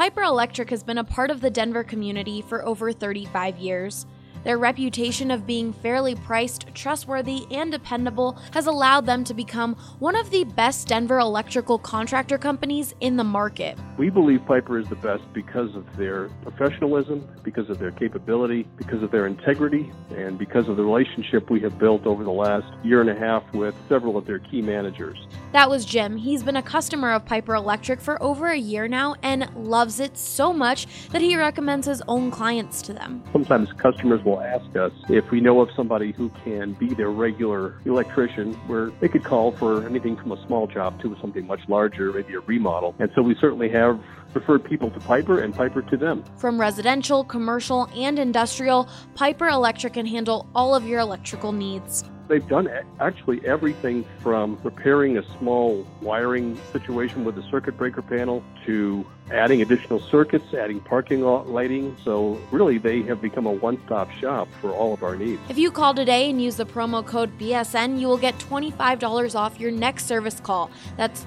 Piper Electric has been a part of the Denver community for over 35 years. Their reputation of being fairly priced, trustworthy, and dependable has allowed them to become one of the best Denver electrical contractor companies in the market. We believe Piper is the best because of their professionalism, because of their capability, because of their integrity, and because of the relationship we have built over the last year and a half with several of their key managers. That was Jim. He's been a customer of Piper Electric for over a year now and loves it so much that he recommends his own clients to them. Sometimes customers will ask us if we know of somebody who can be their regular electrician, where they could call for anything from a small job to something much larger, maybe a remodel. And so we certainly have referred people to Piper and Piper to them. From residential, commercial, and industrial, Piper Electric can handle all of your electrical needs. They've done actually everything from repairing a small wiring situation with a circuit breaker panel to adding additional circuits, adding parking lot lighting. So really, they have become a one-stop shop for all of our needs. If you call today and use the promo code BSN, you will get $25 off your next service call. That's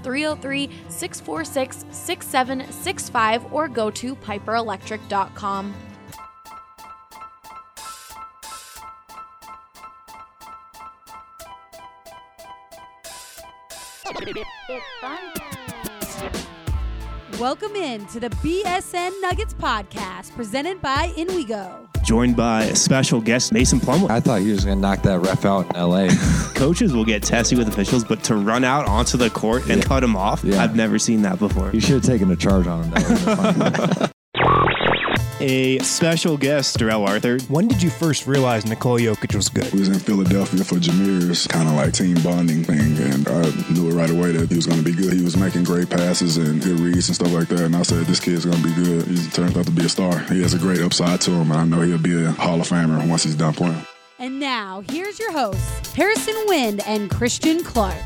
303-646-6765 or go to piperelectric.com. It's fun. Welcome in to the BSN Nuggets podcast presented by InWeGo. Joined by a special guest, Mason Plumlee. I thought he was going to knock that ref out in L.A. Coaches will get testy with officials, but to run out onto the court and cut him off, I've never seen that before. You should have taken a charge on him. That A special guest, Darrell Arthur. When did you first realize Nikola Jokic was good? We was in Philadelphia for Jameer's kind of like team bonding thing, and I knew it right away that he was going to be good. He was making great passes and good reads and stuff like that, and I said, this kid's going to be good. He turned out to be a star. He has a great upside to him, and I know he'll be a Hall of Famer once he's done playing. And now, here's your hosts, Harrison Wind and Christian Clark.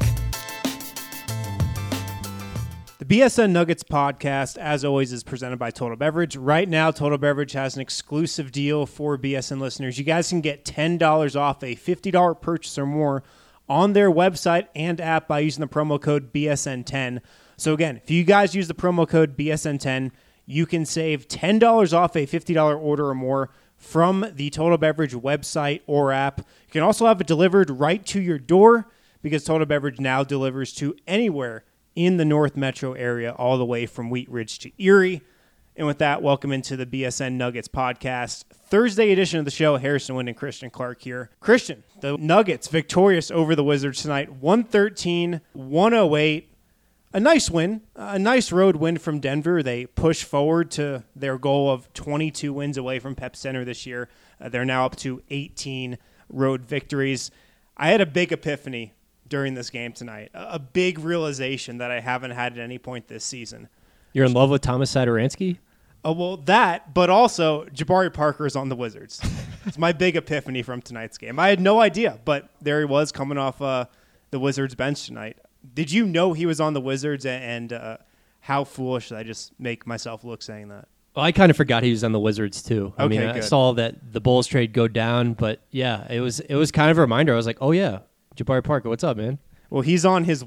The BSN Nuggets podcast, as always, is presented by Total Beverage. Right now, Total Beverage has an exclusive deal for BSN listeners. You guys can get $10 off a $50 purchase or more on their website and app by using the promo code BSN10. So again, if you guys use the promo code BSN10, you can save $10 off a $50 order or more from the Total Beverage website or app. You can also have it delivered right to your door because Total Beverage now delivers to anywhere in the North Metro area, all the way from Wheat Ridge to Erie. And with that, welcome into the BSN Nuggets podcast. Thursday edition of the show, Harrison Wind and Christian Clark here. Christian, the Nuggets victorious over the Wizards tonight, 113-108. A nice win, a nice road win from Denver. They push forward to their goal of 22 wins away from Pep Center this year. They're now up to 18 road victories. I had a big epiphany during this game tonight, a big realization that I haven't had at any point this season. You're in love with Thomas Satoransky? Well, that, but also Jabari Parker is on the Wizards. It's my big epiphany from tonight's game. I had no idea, but there he was coming off the Wizards bench tonight. Did you know he was on the Wizards, and how foolish did I just make myself look saying that? Well, I kind of forgot he was on the Wizards too. I Okay, mean, I good. saw that the Bulls trade go down, but yeah, it was kind of a reminder. I was like, oh yeah, Jabari Parker, what's up, man? Well, he's on his,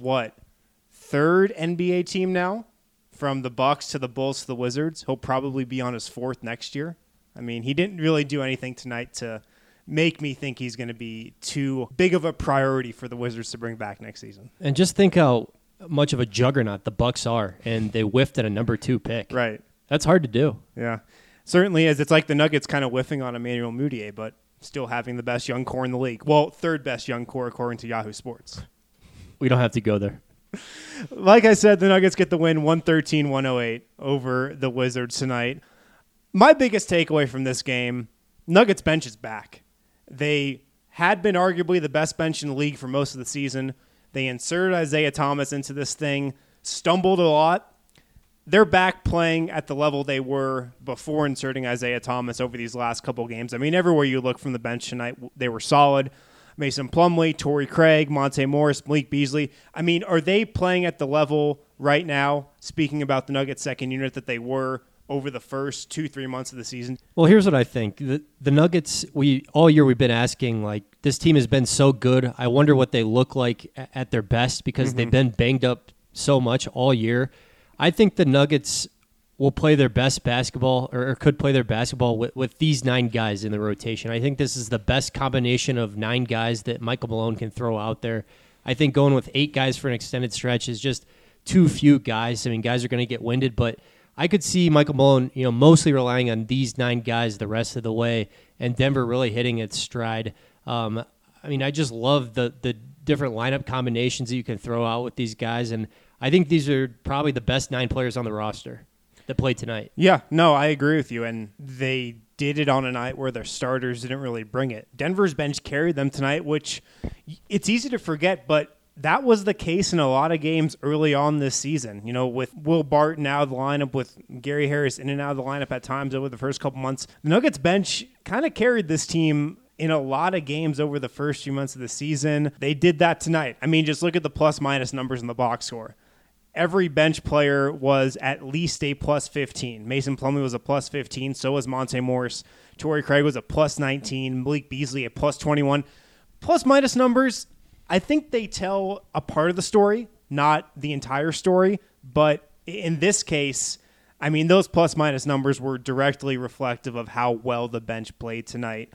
third NBA team now? From the Bucks to the Bulls to the Wizards. He'll probably be on his fourth next year. I mean, he didn't really do anything tonight to make me think he's going to be too big of a priority for the Wizards to bring back next season. And just think how much of a juggernaut the Bucks are, and they whiffed at a number 2 pick. Right. That's hard to do. Yeah. Certainly is. It's like the Nuggets kind of whiffing on Emmanuel Mudiay, but still having the best young core in the league. Well, third best young core according to Yahoo Sports. We don't have to go there. Like I said, the Nuggets get the win 113-108 over the Wizards tonight. My biggest takeaway from this game, Nuggets bench is back. They had been arguably the best bench in the league for most of the season. They inserted Isaiah Thomas into this thing, stumbled a lot. They're back playing at the level they were before inserting Isaiah Thomas over these last couple games. I mean, everywhere you look from the bench tonight, they were solid. Mason Plumlee, Torrey Craig, Monte Morris, Malik Beasley. I mean, are they playing at the level right now, speaking about the Nuggets second unit, that they were over the first 2-3 months of the season? Well, here's what I think. The Nuggets, all year we've been asking, like, this team has been so good. I wonder what they look like at their best because they've been banged up so much all year. I think the Nuggets will play their best basketball or could play their basketball with these 9 guys in the rotation. I think this is the best combination of 9 guys that Michael Malone can throw out there. I think going with 8 guys for an extended stretch is just too few guys. I mean, guys are going to get winded, but I could see Michael Malone, mostly relying on these 9 guys the rest of the way, and Denver really hitting its stride. I just love the different lineup combinations that you can throw out with these guys, and I think these are probably the best 9 players on the roster that played tonight. Yeah, no, I agree with you, and they did it on a night where their starters didn't really bring it. Denver's bench carried them tonight, which it's easy to forget, but that was the case in a lot of games early on this season. With Will Barton out of the lineup, with Gary Harris in and out of the lineup at times over the first couple months, the Nuggets bench kind of carried this team in a lot of games over the first few months of the season. They did that tonight. I mean, just look at the plus-minus numbers in the box score. Every bench player was at least a plus 15. Mason Plumlee was a plus 15. So was Monte Morris. Torrey Craig was a plus 19. Malik Beasley a plus 21. Plus-minus numbers, I think they tell a part of the story, not the entire story. But in this case, I mean, those plus-minus numbers were directly reflective of how well the bench played tonight.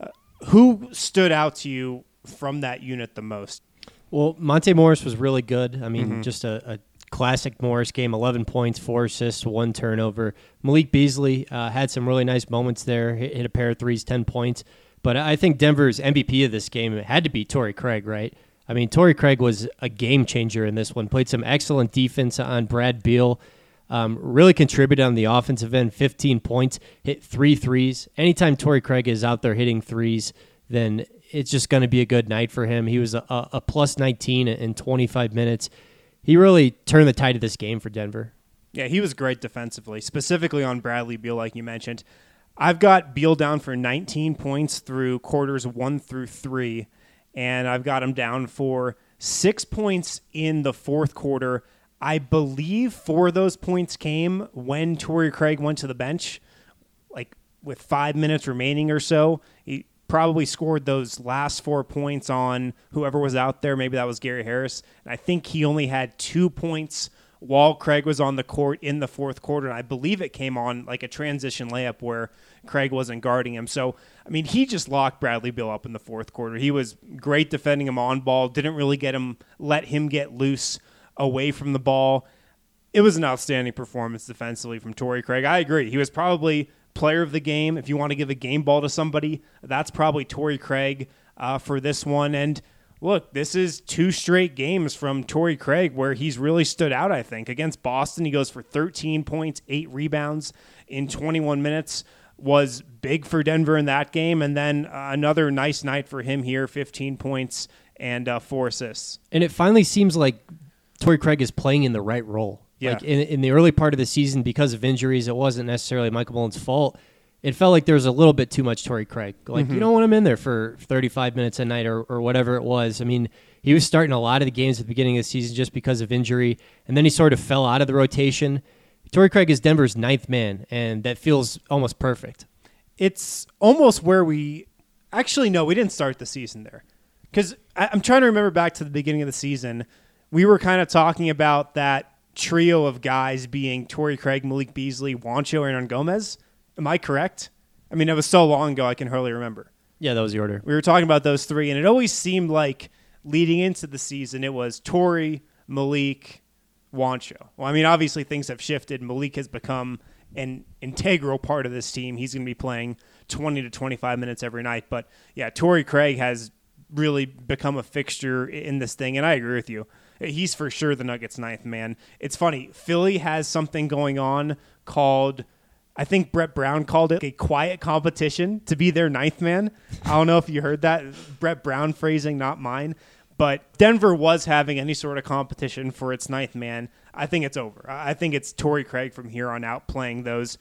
Who stood out to you from that unit the most? Well, Monte Morris was really good. I mean, just a classic Morris game, 11 points, 4 assists, 1 turnover. Malik Beasley had some really nice moments there, hit a pair of threes, 10 points. But I think Denver's MVP of this game had to be Torrey Craig, right? I mean, Torrey Craig was a game changer in this one, played some excellent defense on Brad Beal, really contributed on the offensive end, 15 points, hit 3 threes. Anytime Torrey Craig is out there hitting threes, then it's just going to be a good night for him. He was a plus 19 in 25 minutes. He really turned the tide of this game for Denver. Yeah, he was great defensively, specifically on Bradley Beal, like you mentioned. I've got Beal down for 19 points through quarters 1 through 3, and I've got him down for 6 points in the fourth quarter. I believe 4 of those points came when Torrey Craig went to the bench, like with 5 minutes remaining or so. He probably scored those last 4 points on whoever was out there. Maybe that was Gary Harris. And I think he only had 2 points while Craig was on the court in the fourth quarter. And I believe it came on like a transition layup where Craig wasn't guarding him. So, I mean, he just locked Bradley Beal up in the fourth quarter. He was great defending him on ball, didn't really let him get loose away from the ball. It was an outstanding performance defensively from Torrey Craig. I agree. He was probably player of the game. If you want to give a game ball to somebody, that's probably Torrey Craig for this one. And look, this is 2 straight games from Torrey Craig where he's really stood out, I think. Against Boston, he goes for 13 points, 8 rebounds in 21 minutes. Was big for Denver in that game. And then another nice night for him here, 15 points and 4 assists. And it finally seems like Torrey Craig is playing in the right role. Yeah. Like in the early part of the season, because of injuries, it wasn't necessarily Michael Malone's fault. It felt like there was a little bit too much Torrey Craig. Like, you don't want him in there for 35 minutes a night or whatever it was. I mean, he was starting a lot of the games at the beginning of the season just because of injury, and then he sort of fell out of the rotation. Torrey Craig is Denver's 9th man, and that feels almost perfect. It's almost where we didn't start the season there. Because I'm trying to remember back to the beginning of the season. We were kind of talking about that trio of guys being Torrey Craig, Malik Beasley, Juancho, Hernan Gomez. Am I correct? I mean, it was so long ago I can hardly remember. Yeah, that was the order. We were talking about those 3, and it always seemed like leading into the season it was Torrey, Malik, Juancho. Well, I mean, obviously things have shifted. Malik has become an integral part of this team. He's going to be playing 20 to 25 minutes every night. But, yeah, Torrey Craig has really become a fixture in this thing, and I agree with you. He's for sure the Nuggets' 9th man. It's funny. Philly has something going on called, I think Brett Brown called it a quiet competition to be their 9th man. I don't know if you heard that. Brett Brown phrasing, not mine. But Denver was having any sort of competition for its 9th man. I think it's over. I think it's Torrey Craig from here on out playing those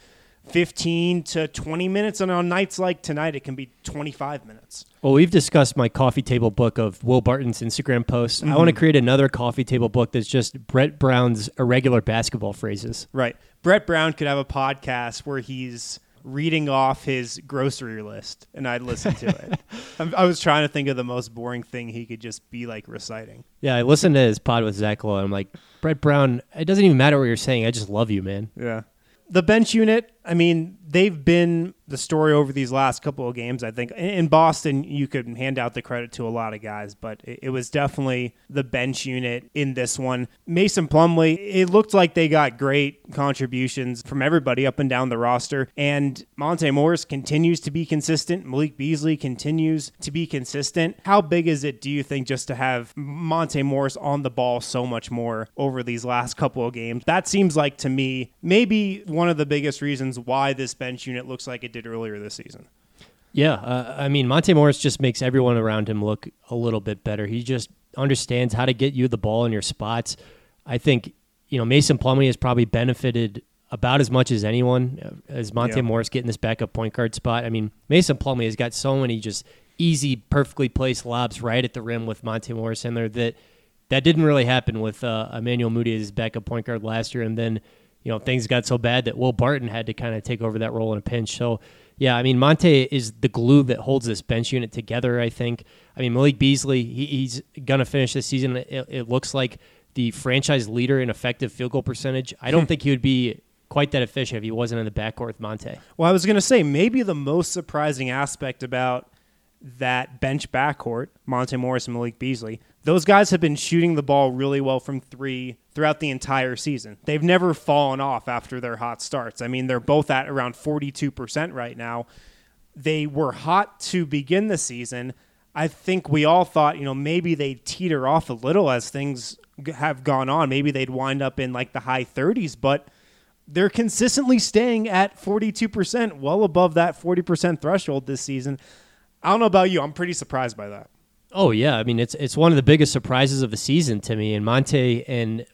15 to 20 minutes, and on nights like tonight, it can be 25 minutes. Well, we've discussed my coffee table book of Will Barton's Instagram posts. I want to create another coffee table book that's just Brett Brown's irregular basketball phrases. Right. Brett Brown could have a podcast where he's reading off his grocery list, and I'd listen to it. I was trying to think of the most boring thing he could just be like reciting. Yeah, I listened to his pod with Zach Lowe, and I'm like, Brett Brown, it doesn't even matter what you're saying. I just love you, man. Yeah. The bench unit, I mean, they've been the story over these last couple of games, I think. In Boston, you could hand out the credit to a lot of guys, but it was definitely the bench unit in this one. Mason Plumlee, it looked like they got great contributions from everybody up and down the roster, and Monte Morris continues to be consistent. Malik Beasley continues to be consistent. How big is it, do you think, just to have Monte Morris on the ball so much more over these last couple of games? That seems like, to me, maybe one of the biggest reasons why this bench unit looks like it did earlier this season. Yeah, I mean, Monte Morris just makes everyone around him look a little bit better. He just understands how to get you the ball in your spots. I think, Mason Plumlee has probably benefited about as much as anyone as Monte Morris getting this backup point guard spot. I mean, Mason Plumlee has got so many just easy, perfectly placed lobs right at the rim with Monte Morris in there that didn't really happen with Emmanuel Mudiay as backup point guard last year, and then things got so bad that Will Barton had to kind of take over that role in a pinch. So, yeah, I mean, Monte is the glue that holds this bench unit together, I think. I mean, Malik Beasley, he's going to finish this season, it looks like, the franchise leader in effective field goal percentage. I don't think he would be quite that efficient if he wasn't in the backcourt with Monte. Well, I was going to say, maybe the most surprising aspect about that bench backcourt, Monte Morris and Malik Beasley, those guys have been shooting the ball really well from three throughout the entire season. They've never fallen off after their hot starts. I mean, they're both at around 42% right now. They were hot to begin the season. I think we all thought, maybe they'd teeter off a little as things have gone on. Maybe they'd wind up in like the high 30s, but they're consistently staying at 42%, well above that 40% threshold this season. I don't know about you. I'm pretty surprised by that. Oh, yeah. I mean, it's one of the biggest surprises of the season to me. And Monte and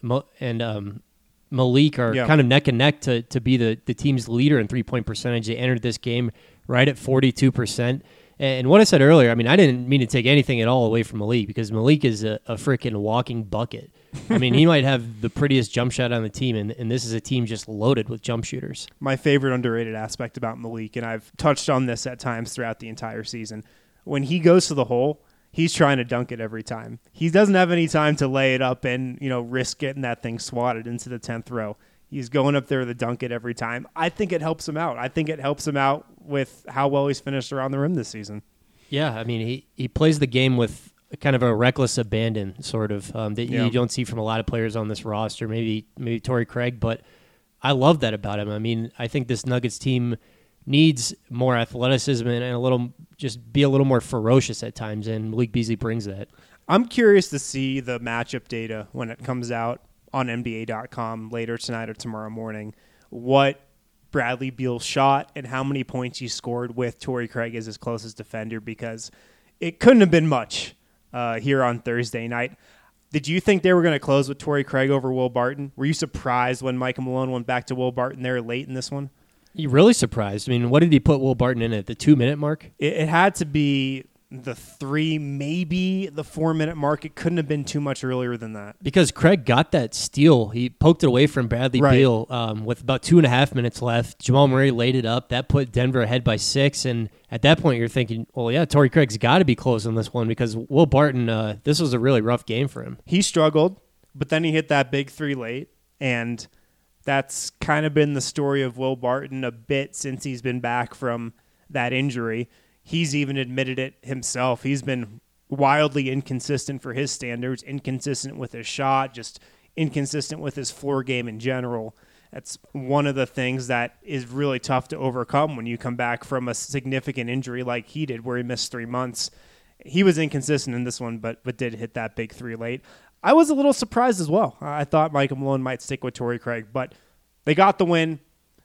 Malik are kind of neck and neck to be the team's leader in three-point percentage. They entered this game right at 42%. And what I said earlier, I mean, I didn't mean to take anything at all away from Malik, because Malik is a freaking walking bucket. I mean, he might have the prettiest jump shot on the team, and this is a team just loaded with jump shooters. My favorite underrated aspect about Malik, and I've touched on this at times throughout the entire season, when he goes to the hole, he's trying to dunk it every time. He doesn't have any time to lay it up and, risk getting that thing swatted into the 10th row. He's going up there to dunk it every time. I think it helps him out. I think it helps him out with how well he's finished around the rim this season. Yeah, I mean, he plays the game with kind of a reckless abandon, sort of, that you don't see from a lot of players on this roster, maybe Torrey Craig, but I love that about him. I mean, I think this Nuggets team needs more athleticism and be a little more ferocious at times, and Malik Beasley brings that. I'm curious to see the matchup data when it comes out on NBA.com later tonight or tomorrow morning, what Bradley Beal shot and how many points he scored with Torrey Craig as his closest defender, because it couldn't have been much here on Thursday night. Did you think they were going to close with Torrey Craig over Will Barton? Were you surprised when Michael Malone went back to Will Barton there late in this one? You really surprised. I mean, what did he put Will Barton in at the 2-minute mark? It had to be the 3, maybe the 4-minute mark. It couldn't have been too much earlier than that. Because Craig got that steal. He poked it away from Bradley Beal with about 2.5 minutes left. Jamal Murray laid it up. That put Denver ahead by 6. And at that point, you're thinking, well, yeah, Torrey Craig's got to be close on this one, because Will Barton, this was a really rough game for him. He struggled, but then he hit that big 3 late. And that's kind of been the story of Will Barton a bit since he's been back from that injury. He's even admitted it himself. He's been wildly inconsistent for his standards, inconsistent with his shot, just inconsistent with his floor game in general. That's one of the things that is really tough to overcome when you come back from a significant injury like he did, where he missed 3 months. He was inconsistent in this one, but did hit that big 3 late. I was a little surprised as well. I thought Michael Malone might stick with Torrey Craig, but they got the win,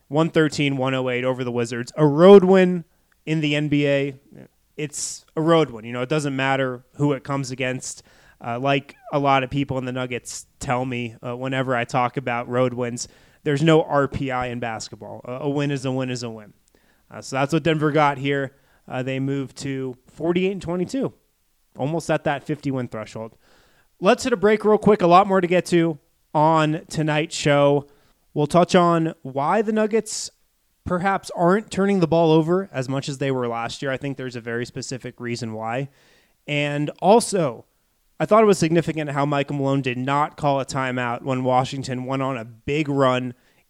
113-108 over the Wizards. A road win in the NBA, it's a road win. It doesn't matter who it comes against. Like a lot of people in the Nuggets tell me whenever I talk about road wins, there's no RPI in basketball. A win is a win is a win. So that's what Denver got here. They moved to 48-22, almost at that 50-win threshold. Let's hit a break real quick. A lot more to get to on tonight's show. We'll touch on why the Nuggets perhaps aren't turning the ball over as much as they were last year. I think there's a very specific reason why. And also, I thought it was significant how Michael Malone did not call a timeout when Washington went on a big run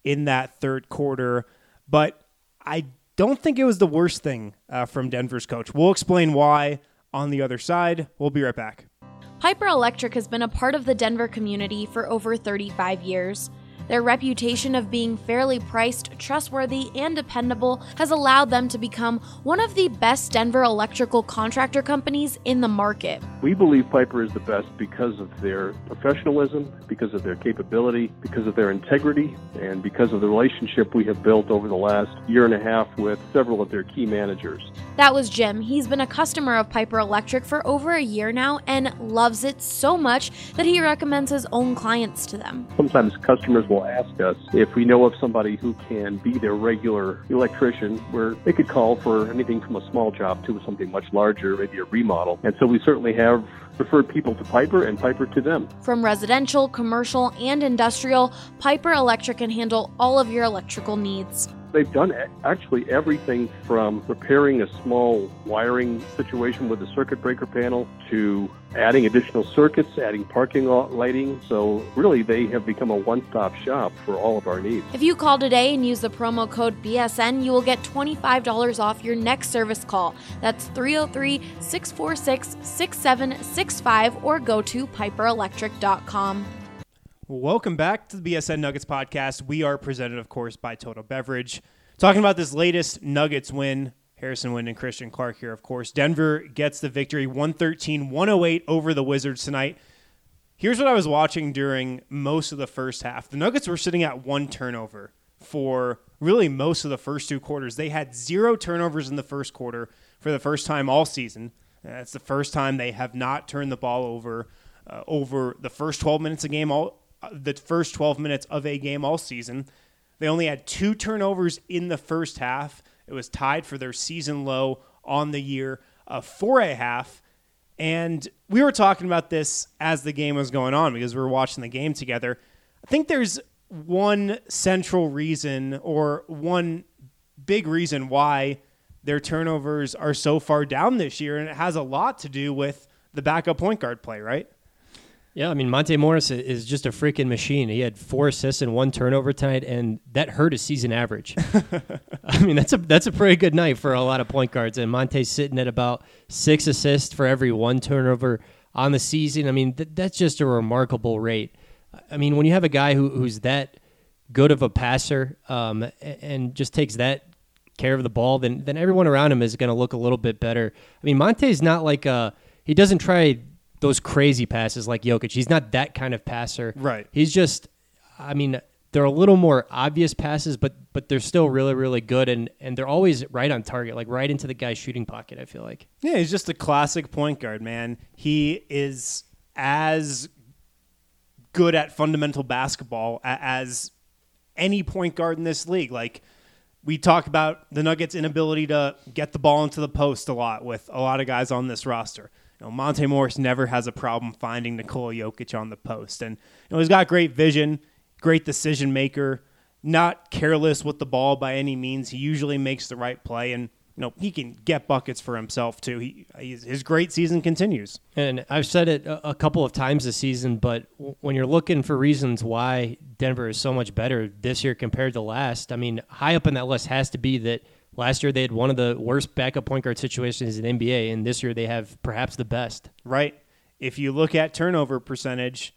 in that third quarter. But I don't think it was the worst thing from Denver's coach. We'll explain why on the other side. We'll be right back. Piper Electric has been a part of the Denver community for over 35 years. Their reputation of being fairly priced, trustworthy, and dependable has allowed them to become one of the best Denver electrical contractor companies in the market. We believe Piper is the best because of their professionalism, because of their capability, because of their integrity, and because of the relationship we have built over the last year and a half with several of their key managers. That was Jim. He's been a customer of Piper Electric for over a year now and loves it so much that he recommends his own clients to them. Sometimes customers will ask us if we know of somebody who can be their regular electrician, where they could call for anything from a small job to something much larger, maybe a remodel. And so we certainly have referred people to Piper and Piper to them. From residential, commercial, and industrial, Piper Electric can handle all of your electrical needs. They've done actually everything from repairing a small wiring situation with a circuit breaker panel to adding additional circuits, adding parking lot lighting. So really, they have become a one-stop shop for all of our needs. If you call today and use the promo code BSN, you will get $25 off your next service call. That's 303-646-6765 or go to piperelectric.com. Welcome back to the BSN Nuggets podcast. We are presented, of course, by Total Beverage. Talking about this latest Nuggets win, Harrison Wind and Christian Clark here, of course. Denver gets the victory 113-108 over the Wizards tonight. Here's what I was watching during most of the first half. The Nuggets were sitting at one turnover for really most of the first two quarters. They had 0 turnovers in the first quarter for the first time all season. That's the first time they have not turned the ball over the first 12 minutes of a game all season. They only had 2 turnovers in the first half. It was tied for their season low on the year for a half. And we were talking about this as the game was going on because we were watching the game together. I think there's one central reason or one big reason why their turnovers are so far down this year, and it has a lot to do with the backup point guard play, right? Yeah, I mean, Monte Morris is just a freaking machine. He had 4 assists and 1 turnover tonight, and that hurt his season average. I mean, that's a pretty good night for a lot of point guards, and Monte's sitting at about 6 assists for every 1 turnover on the season. I mean, that's just a remarkable rate. I mean, when you have a guy who's that good of a passer and just takes that care of the ball, then everyone around him is going to look a little bit better. I mean, Monte's not like he doesn't try those crazy passes like Jokic. He's not that kind of passer. Right. He's just, I mean, they're a little more obvious passes, but they're still really, really good, and they're always right on target, like right into the guy's shooting pocket, I feel like. Yeah, he's just a classic point guard, man. He is as good at fundamental basketball as any point guard in this league. Like, we talk about the Nuggets' inability to get the ball into the post a lot with a lot of guys on this roster. You know, Monte Morris never has a problem finding Nikola Jokic on the post. And he's got great vision, great decision maker, not careless with the ball by any means. He usually makes the right play, and he can get buckets for himself too. His great season continues. And I've said it a couple of times this season, but when you're looking for reasons why Denver is so much better this year compared to last, I mean, high up on that list has to be that last year they had one of the worst backup point guard situations in the NBA, and this year they have perhaps the best. Right. If you look at turnover percentage,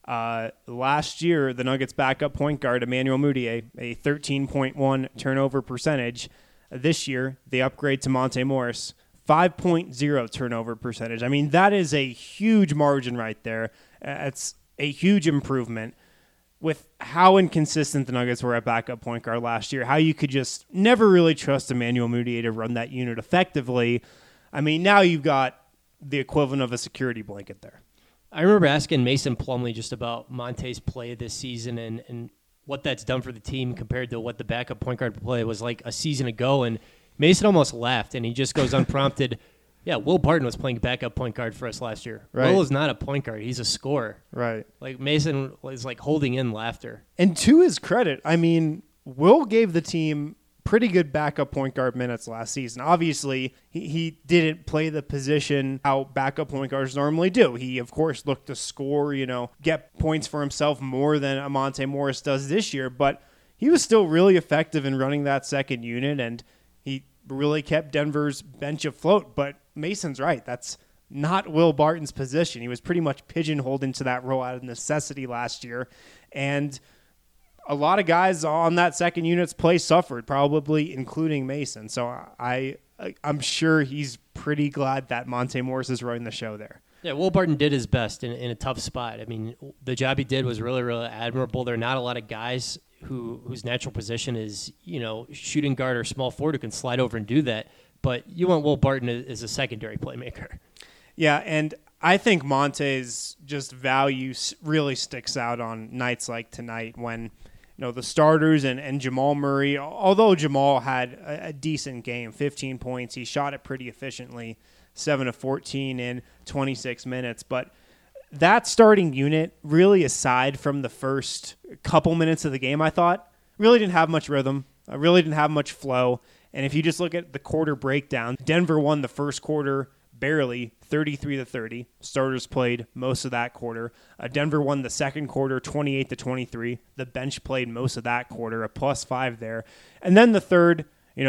last year the Nuggets' backup point guard, Emmanuel Mudiay, a 13.1 turnover percentage. This year they upgrade to Monte Morris, 5.0 turnover percentage. I mean, that is a huge margin right there. It's a huge improvement. With how inconsistent the Nuggets were at backup point guard last year, how you could just never really trust Emmanuel Mudiay to run that unit effectively. I mean, now you've got the equivalent of a security blanket there. I remember asking Mason Plumlee just about Monte's play this season and what that's done for the team compared to what the backup point guard play was like a season ago, and Mason almost laughed, and he just goes unprompted, yeah, Will Barton was playing backup point guard for us last year. Right. Will is not a point guard. He's a scorer. Right. Like, Mason was like holding in laughter. And to his credit, I mean, Will gave the team pretty good backup point guard minutes last season. Obviously, he didn't play the position how backup point guards normally do. He, of course, looked to score, get points for himself more than Monte Morris does this year. But he was still really effective in running that second unit, and he really kept Denver's bench afloat. But Mason's right. That's not Will Barton's position. He was pretty much pigeonholed into that role out of necessity last year. And a lot of guys on that second unit's play suffered, probably including Mason. So I'm sure he's pretty glad that Monte Morris is running the show there. Yeah, Will Barton did his best in a tough spot. I mean, the job he did was really, really admirable. There are not a lot of guys whose natural position is, shooting guard or small forward who can slide over and do that. But you want Will Barton as a secondary playmaker. Yeah, and I think Monte's just value really sticks out on nights like tonight when the starters and Jamal Murray, although Jamal had a decent game, 15 points, he shot it pretty efficiently, 7 of 14 in 26 minutes. But that starting unit, really aside from the first couple minutes of the game, I thought, really didn't have much rhythm, really didn't have much flow. And if you just look at the quarter breakdown, Denver won the first quarter barely, 33-30. Starters played most of that quarter. Denver won the second quarter 28-23. The bench played most of that quarter, a +5 there. And then the third,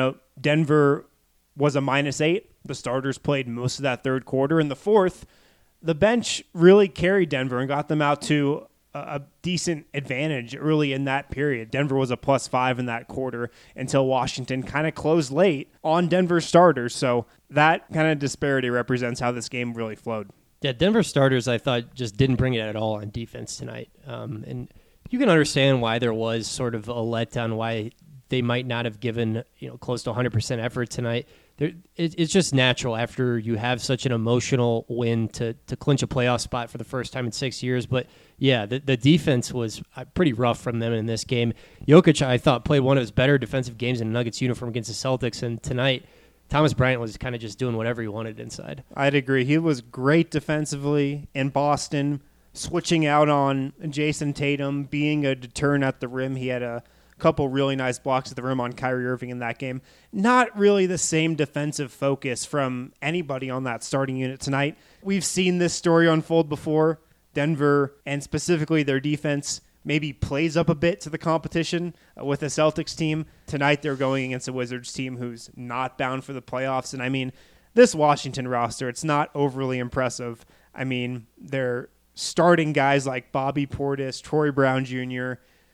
Denver was a -8. The starters played most of that third quarter. And the fourth, the bench really carried Denver and got them out to a decent advantage early in that period. Denver was a +5 in that quarter until Washington kind of closed late on Denver's starters. So that kind of disparity represents how this game really flowed. Yeah, Denver starters, I thought, just didn't bring it at all on defense tonight. And you can understand why there was sort of a letdown, why they might not have given close to 100% effort tonight. It's just natural after you have such an emotional win to clinch a playoff spot for the first time in 6 years. But yeah, the defense was pretty rough from them in this game. Jokic, I thought, played one of his better defensive games in a Nuggets uniform against the Celtics. And tonight, Thomas Bryant was kind of just doing whatever he wanted inside. I'd agree. He was great defensively in Boston, switching out on Jason Tatum, being a deterrent at the rim. He had a couple really nice blocks at the rim on Kyrie Irving in that game. Not really the same defensive focus from anybody on that starting unit tonight. We've seen this story unfold before. Denver, and specifically their defense, maybe plays up a bit to the competition with the Celtics team. Tonight they're going against a Wizards team who's not bound for the playoffs. And I mean, this Washington roster, it's not overly impressive. I mean, they're starting guys like Bobby Portis, Troy Brown Jr.,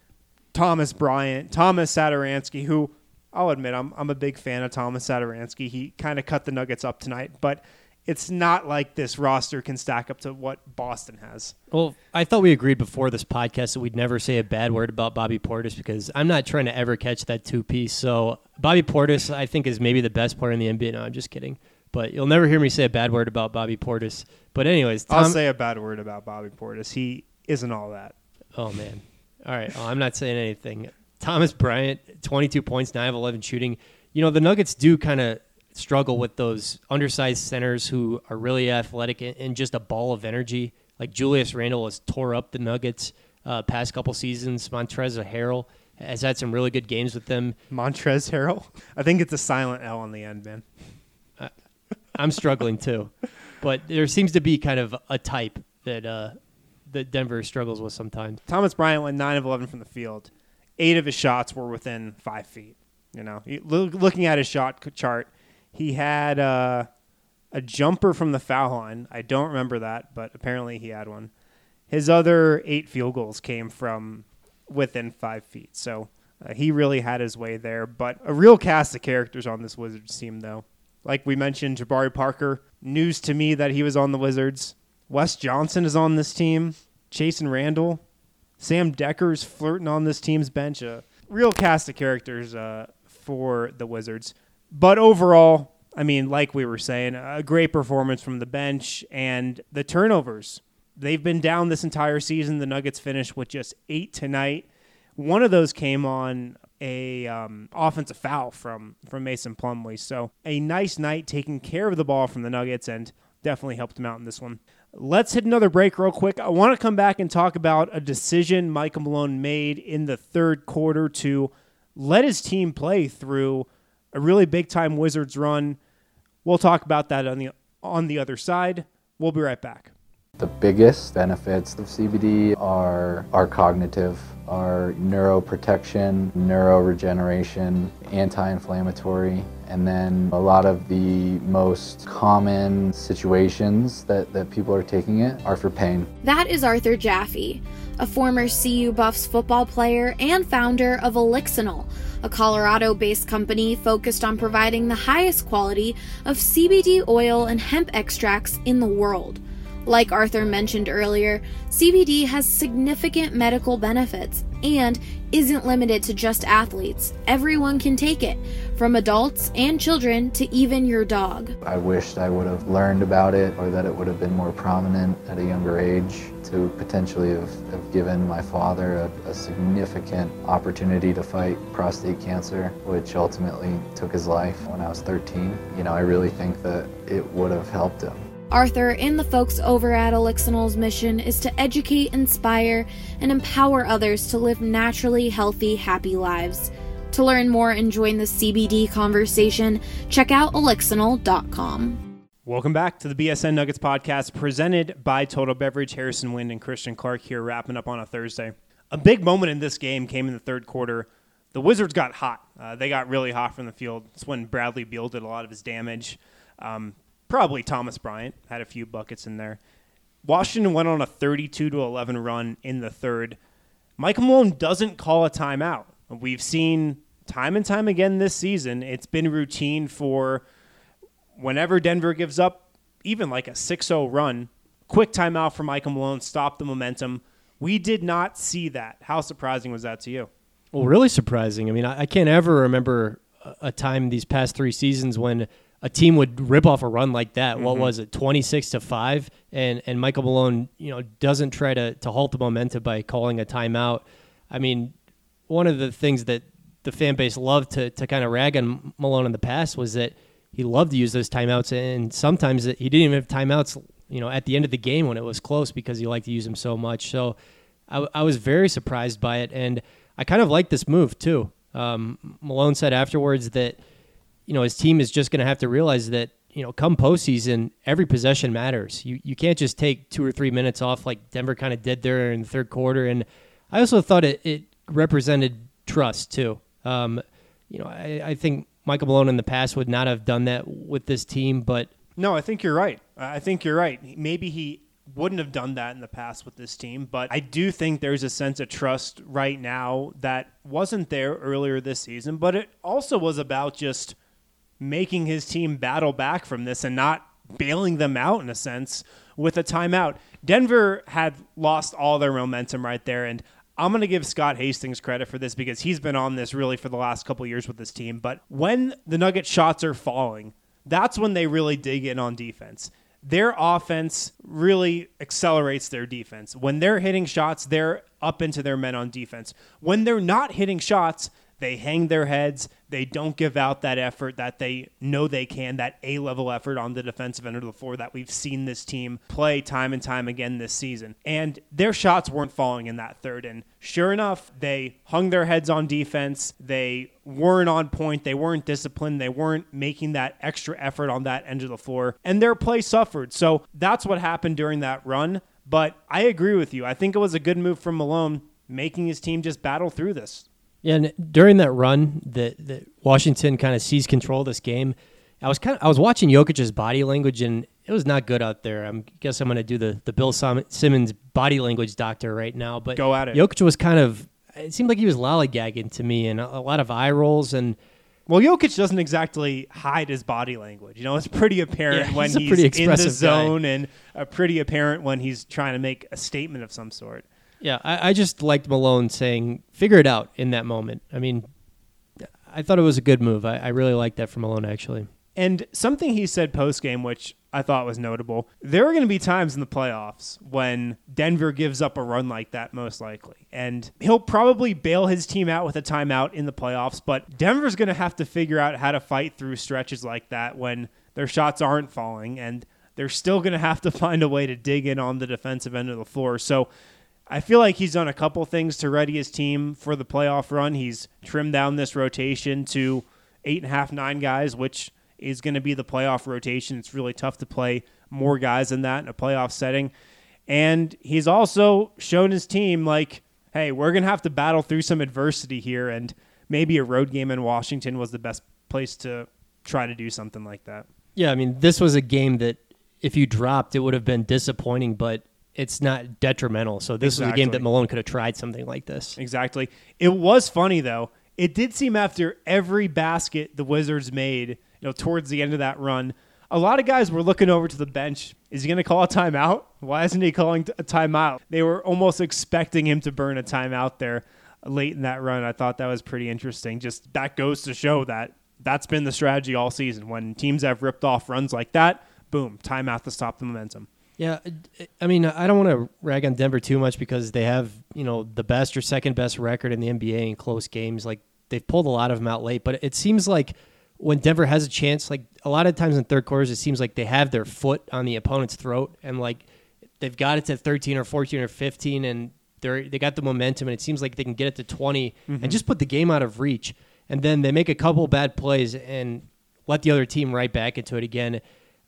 Thomas Bryant, Thomas Satoransky, who I'll admit I'm a big fan of Thomas Satoransky. He kind of cut the Nuggets up tonight, but it's not like this roster can stack up to what Boston has. Well, I thought we agreed before this podcast that we'd never say a bad word about Bobby Portis because I'm not trying to ever catch that two-piece. So Bobby Portis, I think, is maybe the best player in the NBA. No, I'm just kidding. But you'll never hear me say a bad word about Bobby Portis. But anyways, I'll say a bad word about Bobby Portis. He isn't all that. Oh, man. All right, well, I'm not saying anything. Thomas Bryant, 22 points, 9 of 11 shooting. The Nuggets do kind of struggle with those undersized centers who are really athletic and just a ball of energy. Like Julius Randle has tore up the Nuggets past couple seasons. Montrezl Harrell has had some really good games with them. Montrezl Harrell? I think it's a silent L on the end, man. I'm struggling too. But there seems to be kind of a type that Denver struggles with sometimes. Thomas Bryant went 9 of 11 from the field. 8 of his shots were within 5 feet. Looking at his shot chart, he had a jumper from the foul line. I don't remember that, but apparently he had one. His other 8 field goals came from within 5 feet. So he really had his way there. But a real cast of characters on this Wizards team, though. Like we mentioned, Jabari Parker, news to me that he was on the Wizards. Wes Johnson is on this team. Jason Randall. Sam Decker's flirting on this team's bench. A real cast of characters for the Wizards. But overall, I mean, like we were saying, a great performance from the bench and the turnovers. They've been down this entire season. The Nuggets finished with just 8 tonight. One of those came on a offensive foul from Mason Plumlee. So a nice night taking care of the ball from the Nuggets and definitely helped them out in this one. Let's hit another break real quick. I want to come back and talk about a decision Michael Malone made in the third quarter to let his team play through a really big-time Wizards run. We'll talk about that on the other side. We'll be right back. The biggest benefits of CBD are cognitive. are neuroprotection, neuroregeneration, anti-inflammatory, and then a lot of the most common situations that people are taking it are for pain. That is Arthur Jaffe, a former CU Buffs football player and founder of Elixinol, a Colorado-based company focused on providing the highest quality of CBD oil and hemp extracts in the world. Like Arthur mentioned earlier, CBD has significant medical benefits and isn't limited to just athletes. Everyone can take it, from adults and children to even your dog. I wished I would have learned about it, or that it would have been more prominent at a younger age to potentially have given my father a significant opportunity to fight prostate cancer, which ultimately took his life when I was 13. I really think that it would have helped him. Arthur and the folks over at Elixinol's mission is to educate, inspire, and empower others to live naturally healthy, happy lives. To learn more and join the CBD conversation, check out elixinol.com. Welcome back to the BSN Nuggets podcast presented by Total Beverage. Harrison Wind and Christian Clark here, wrapping up on a Thursday. A big moment in this game came in the third quarter. The Wizards got hot. They got really hot from the field. It's when Bradley Beal did a lot of his damage. Probably Thomas Bryant had a few buckets in there. Washington went on a 32-11 run in the third. Michael Malone doesn't call a timeout. We've seen time and time again this season, it's been routine for whenever Denver gives up even like a 6-0 run, quick timeout for Michael Malone, stop the momentum. We did not see that. How surprising was that to you? Well, really surprising. I mean, I can't ever remember a time these past 3 seasons when a team would rip off a run like that. What was it, 26-5? And Michael Malone, doesn't try to halt the momentum by calling a timeout. I mean, one of the things that the fan base loved to kind of rag on Malone in the past was that he loved to use those timeouts, and sometimes he didn't even have timeouts, at the end of the game when it was close because he liked to use them so much. So I was very surprised by it, and I kind of like this move too. Malone said afterwards that his team is just going to have to realize that, come postseason, every possession matters. You can't just take 2 or 3 minutes off like Denver kind of did there in the third quarter. And I also thought it represented trust too. I think Michael Malone in the past would not have done that with this team, but... No, I think you're right. Maybe he wouldn't have done that in the past with this team, but I do think there's a sense of trust right now that wasn't there earlier this season, but it also was about just making his team battle back from this and not bailing them out in a sense with a timeout. Denver had lost all their momentum right there, and I'm going to give Scott Hastings credit for this because he's been on this really for the last couple of years with this team. But when the Nuggets shots are falling, that's when they really dig in on defense. Their offense really accelerates their defense. When they're hitting shots, they're up into their men on defense. When they're not hitting shots, they hang their heads. They don't give out that effort that they know they can, that A-level effort on the defensive end of the floor that we've seen this team play time and time again this season. And their shots weren't falling in that third. And sure enough, they hung their heads on defense. They weren't on point. They weren't disciplined. They weren't making that extra effort on that end of the floor. And their play suffered. So that's what happened during that run. But I agree with you. I think it was a good move from Malone, making his team just battle through this. Yeah, and during that run that Washington kind of seized control of this game, I was watching Jokic's body language, and it was not good out there. I guess I'm going to do the Bill Simmons body language doctor right now. But go at it. Jokic was it seemed like he was lollygagging to me, and a lot of eye rolls. And well, Jokic doesn't exactly hide his body language. It's pretty apparent when he's in the zone and pretty apparent when he's trying to make a statement of some sort. Yeah, I just liked Malone saying, figure it out in that moment. I mean, I thought it was a good move. I really liked that from Malone, actually. And something he said post-game, which I thought was notable, there are going to be times in the playoffs when Denver gives up a run like that, most likely. And he'll probably bail his team out with a timeout in the playoffs, but Denver's going to have to figure out how to fight through stretches like that when their shots aren't falling, and they're still going to have to find a way to dig in on the defensive end of the floor. So I feel like he's done a couple things to ready his team for the playoff run. He's trimmed down this rotation to 8.5, 9 guys, which is going to be the playoff rotation. It's really tough to play more guys than that in a playoff setting. And he's also shown his team, like, hey, we're going to have to battle through some adversity here, and maybe a road game in Washington was the best place to try to do something like that. Yeah, I mean, this was a game that if you dropped, it would have been disappointing, but it's not detrimental. So this was a game that Malone could have tried something like this. Exactly. It was funny, though. It did seem after every basket the Wizards made, towards the end of that run, a lot of guys were looking over to the bench. Is he going to call a timeout? Why isn't he calling a timeout? They were almost expecting him to burn a timeout there late in that run. I thought that was pretty interesting. Just that goes to show that that's been the strategy all season. When teams have ripped off runs like that, boom, timeout to stop the momentum. Yeah, I mean, I don't want to rag on Denver too much because they have, the best or second best record in the NBA in close games. Like, they've pulled a lot of them out late, but it seems like when Denver has a chance, like a lot of times in third quarters, it seems like they have their foot on the opponent's throat and like they've got it to 13 or 14 or 15 and they got the momentum and it seems like they can get it to 20 and just put the game out of reach. And then they make a couple bad plays and let the other team right back into it again.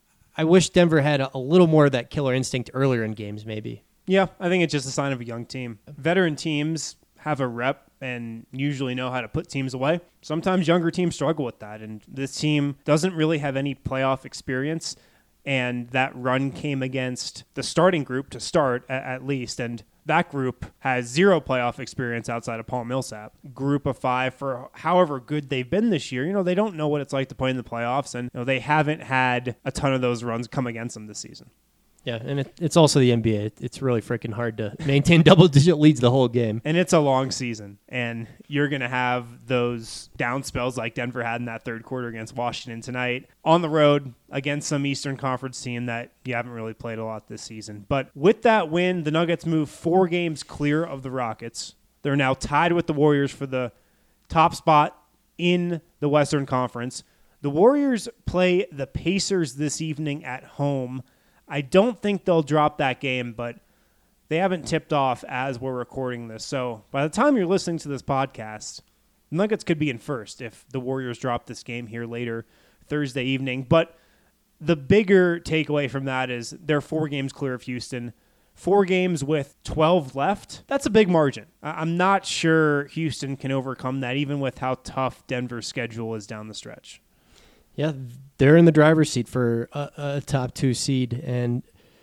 I wish Denver had a little more of that killer instinct earlier in games, maybe. Yeah, I think it's just a sign of a young team. Veteran teams have a rep and usually know how to put teams away. Sometimes younger teams struggle with that, and this team doesn't really have any playoff experience, and that run came against the starting group to start, at least, and that group has zero playoff experience outside of Paul Millsap. Group of 5, for however good they've been this year, they don't know what it's like to play in the playoffs, and they haven't had a ton of those runs come against them this season. Yeah, and it's also the NBA. It's really freaking hard to maintain double-digit leads the whole game. And it's a long season, and you're going to have those down spells like Denver had in that third quarter against Washington tonight on the road against some Eastern Conference team that you haven't really played a lot this season. But with that win, the Nuggets move 4 games clear of the Rockets. They're now tied with the Warriors for the top spot in the Western Conference. The Warriors play the Pacers this evening at home. I don't think they'll drop that game, but they haven't tipped off as we're recording this. So by the time you're listening to this podcast, the Nuggets could be in first if the Warriors drop this game here later Thursday evening. But the bigger takeaway from that is they're 4 games clear of Houston, 4 games with 12 left. That's a big margin. I'm not sure Houston can overcome that, even with how tough Denver's schedule is down the stretch. Yeah, they're in the driver's seat for a top 2 seed, and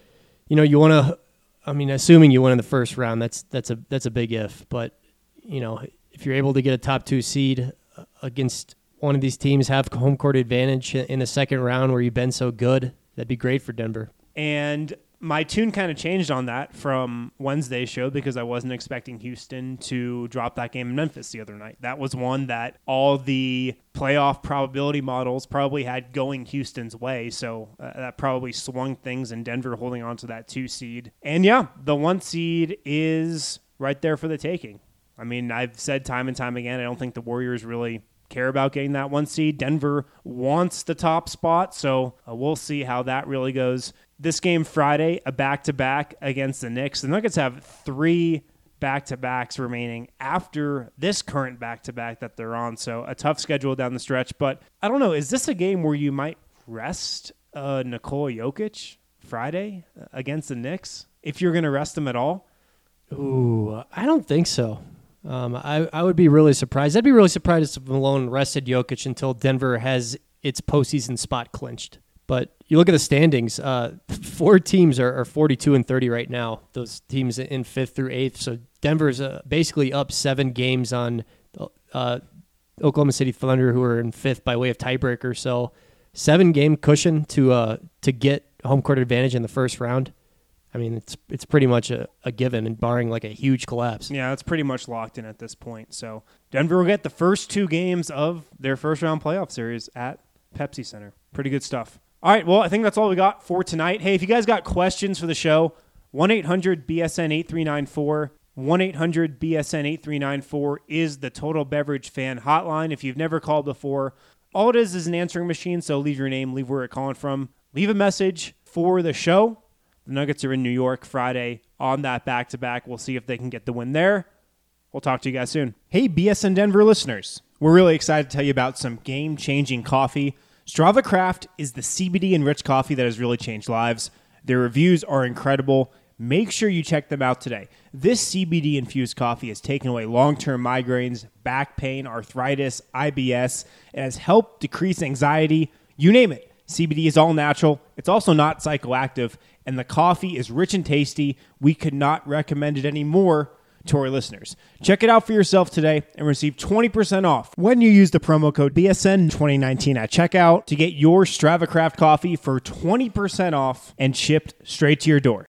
you want to. I mean, assuming you win in the first round, that's a big if. But if you're able to get a top 2 seed against one of these teams, have home court advantage in the second round where you've been so good, that'd be great for Denver. And my tune kind of changed on that from Wednesday's show because I wasn't expecting Houston to drop that game in Memphis the other night. That was one that all the playoff probability models probably had going Houston's way, so that probably swung things in Denver holding on to that 2 seed. And yeah, the 1 seed is right there for the taking. I mean, I've said time and time again, I don't think the Warriors really care about getting that 1 seed. Denver wants the top spot, so we'll see how that really goes. This game Friday, a back-to-back against the Knicks. The Nuggets have 3 back-to-backs remaining after this current back-to-back that they're on, so a tough schedule down the stretch. But I don't know, is this a game where you might rest Nikola Jokic Friday against the Knicks, if you're going to rest him at all? Ooh, I don't think so. I would be really surprised. I'd be really surprised if Malone rested Jokic until Denver has its postseason spot clinched. But you look at the standings, 4 teams are 42-30 right now. Those teams in 5th through 8th. So Denver's basically up 7 games on Oklahoma City Thunder, who are in 5th by way of tiebreaker. So 7-game cushion to get home court advantage in the first round. I mean, it's pretty much a given, and barring like a huge collapse. Yeah, it's pretty much locked in at this point. So Denver will get the first 2 games of their first round playoff series at Pepsi Center. Pretty good stuff. All right, well, I think that's all we got for tonight. Hey, if you guys got questions for the show, 1-800-BSN-8394. 1-800-BSN-8394 is the Total Beverage Fan Hotline. If you've never called before, all it is an answering machine, so leave your name, leave where you're calling from. Leave a message for the show. The Nuggets are in New York Friday on that back-to-back. We'll see if they can get the win there. We'll talk to you guys soon. Hey, BSN Denver listeners. We're really excited to tell you about some game-changing coffee. Strava Craft is the CBD-enriched coffee that has really changed lives. Their reviews are incredible. Make sure you check them out today. This CBD-infused coffee has taken away long-term migraines, back pain, arthritis, IBS. It has helped decrease anxiety, you name it. CBD is all natural. It's also not psychoactive, and the coffee is rich and tasty. We could not recommend it any more to our listeners. Check it out for yourself today and receive 20% off when you use the promo code BSN2019 at checkout to get your Strava Craft coffee for 20% off and shipped straight to your door.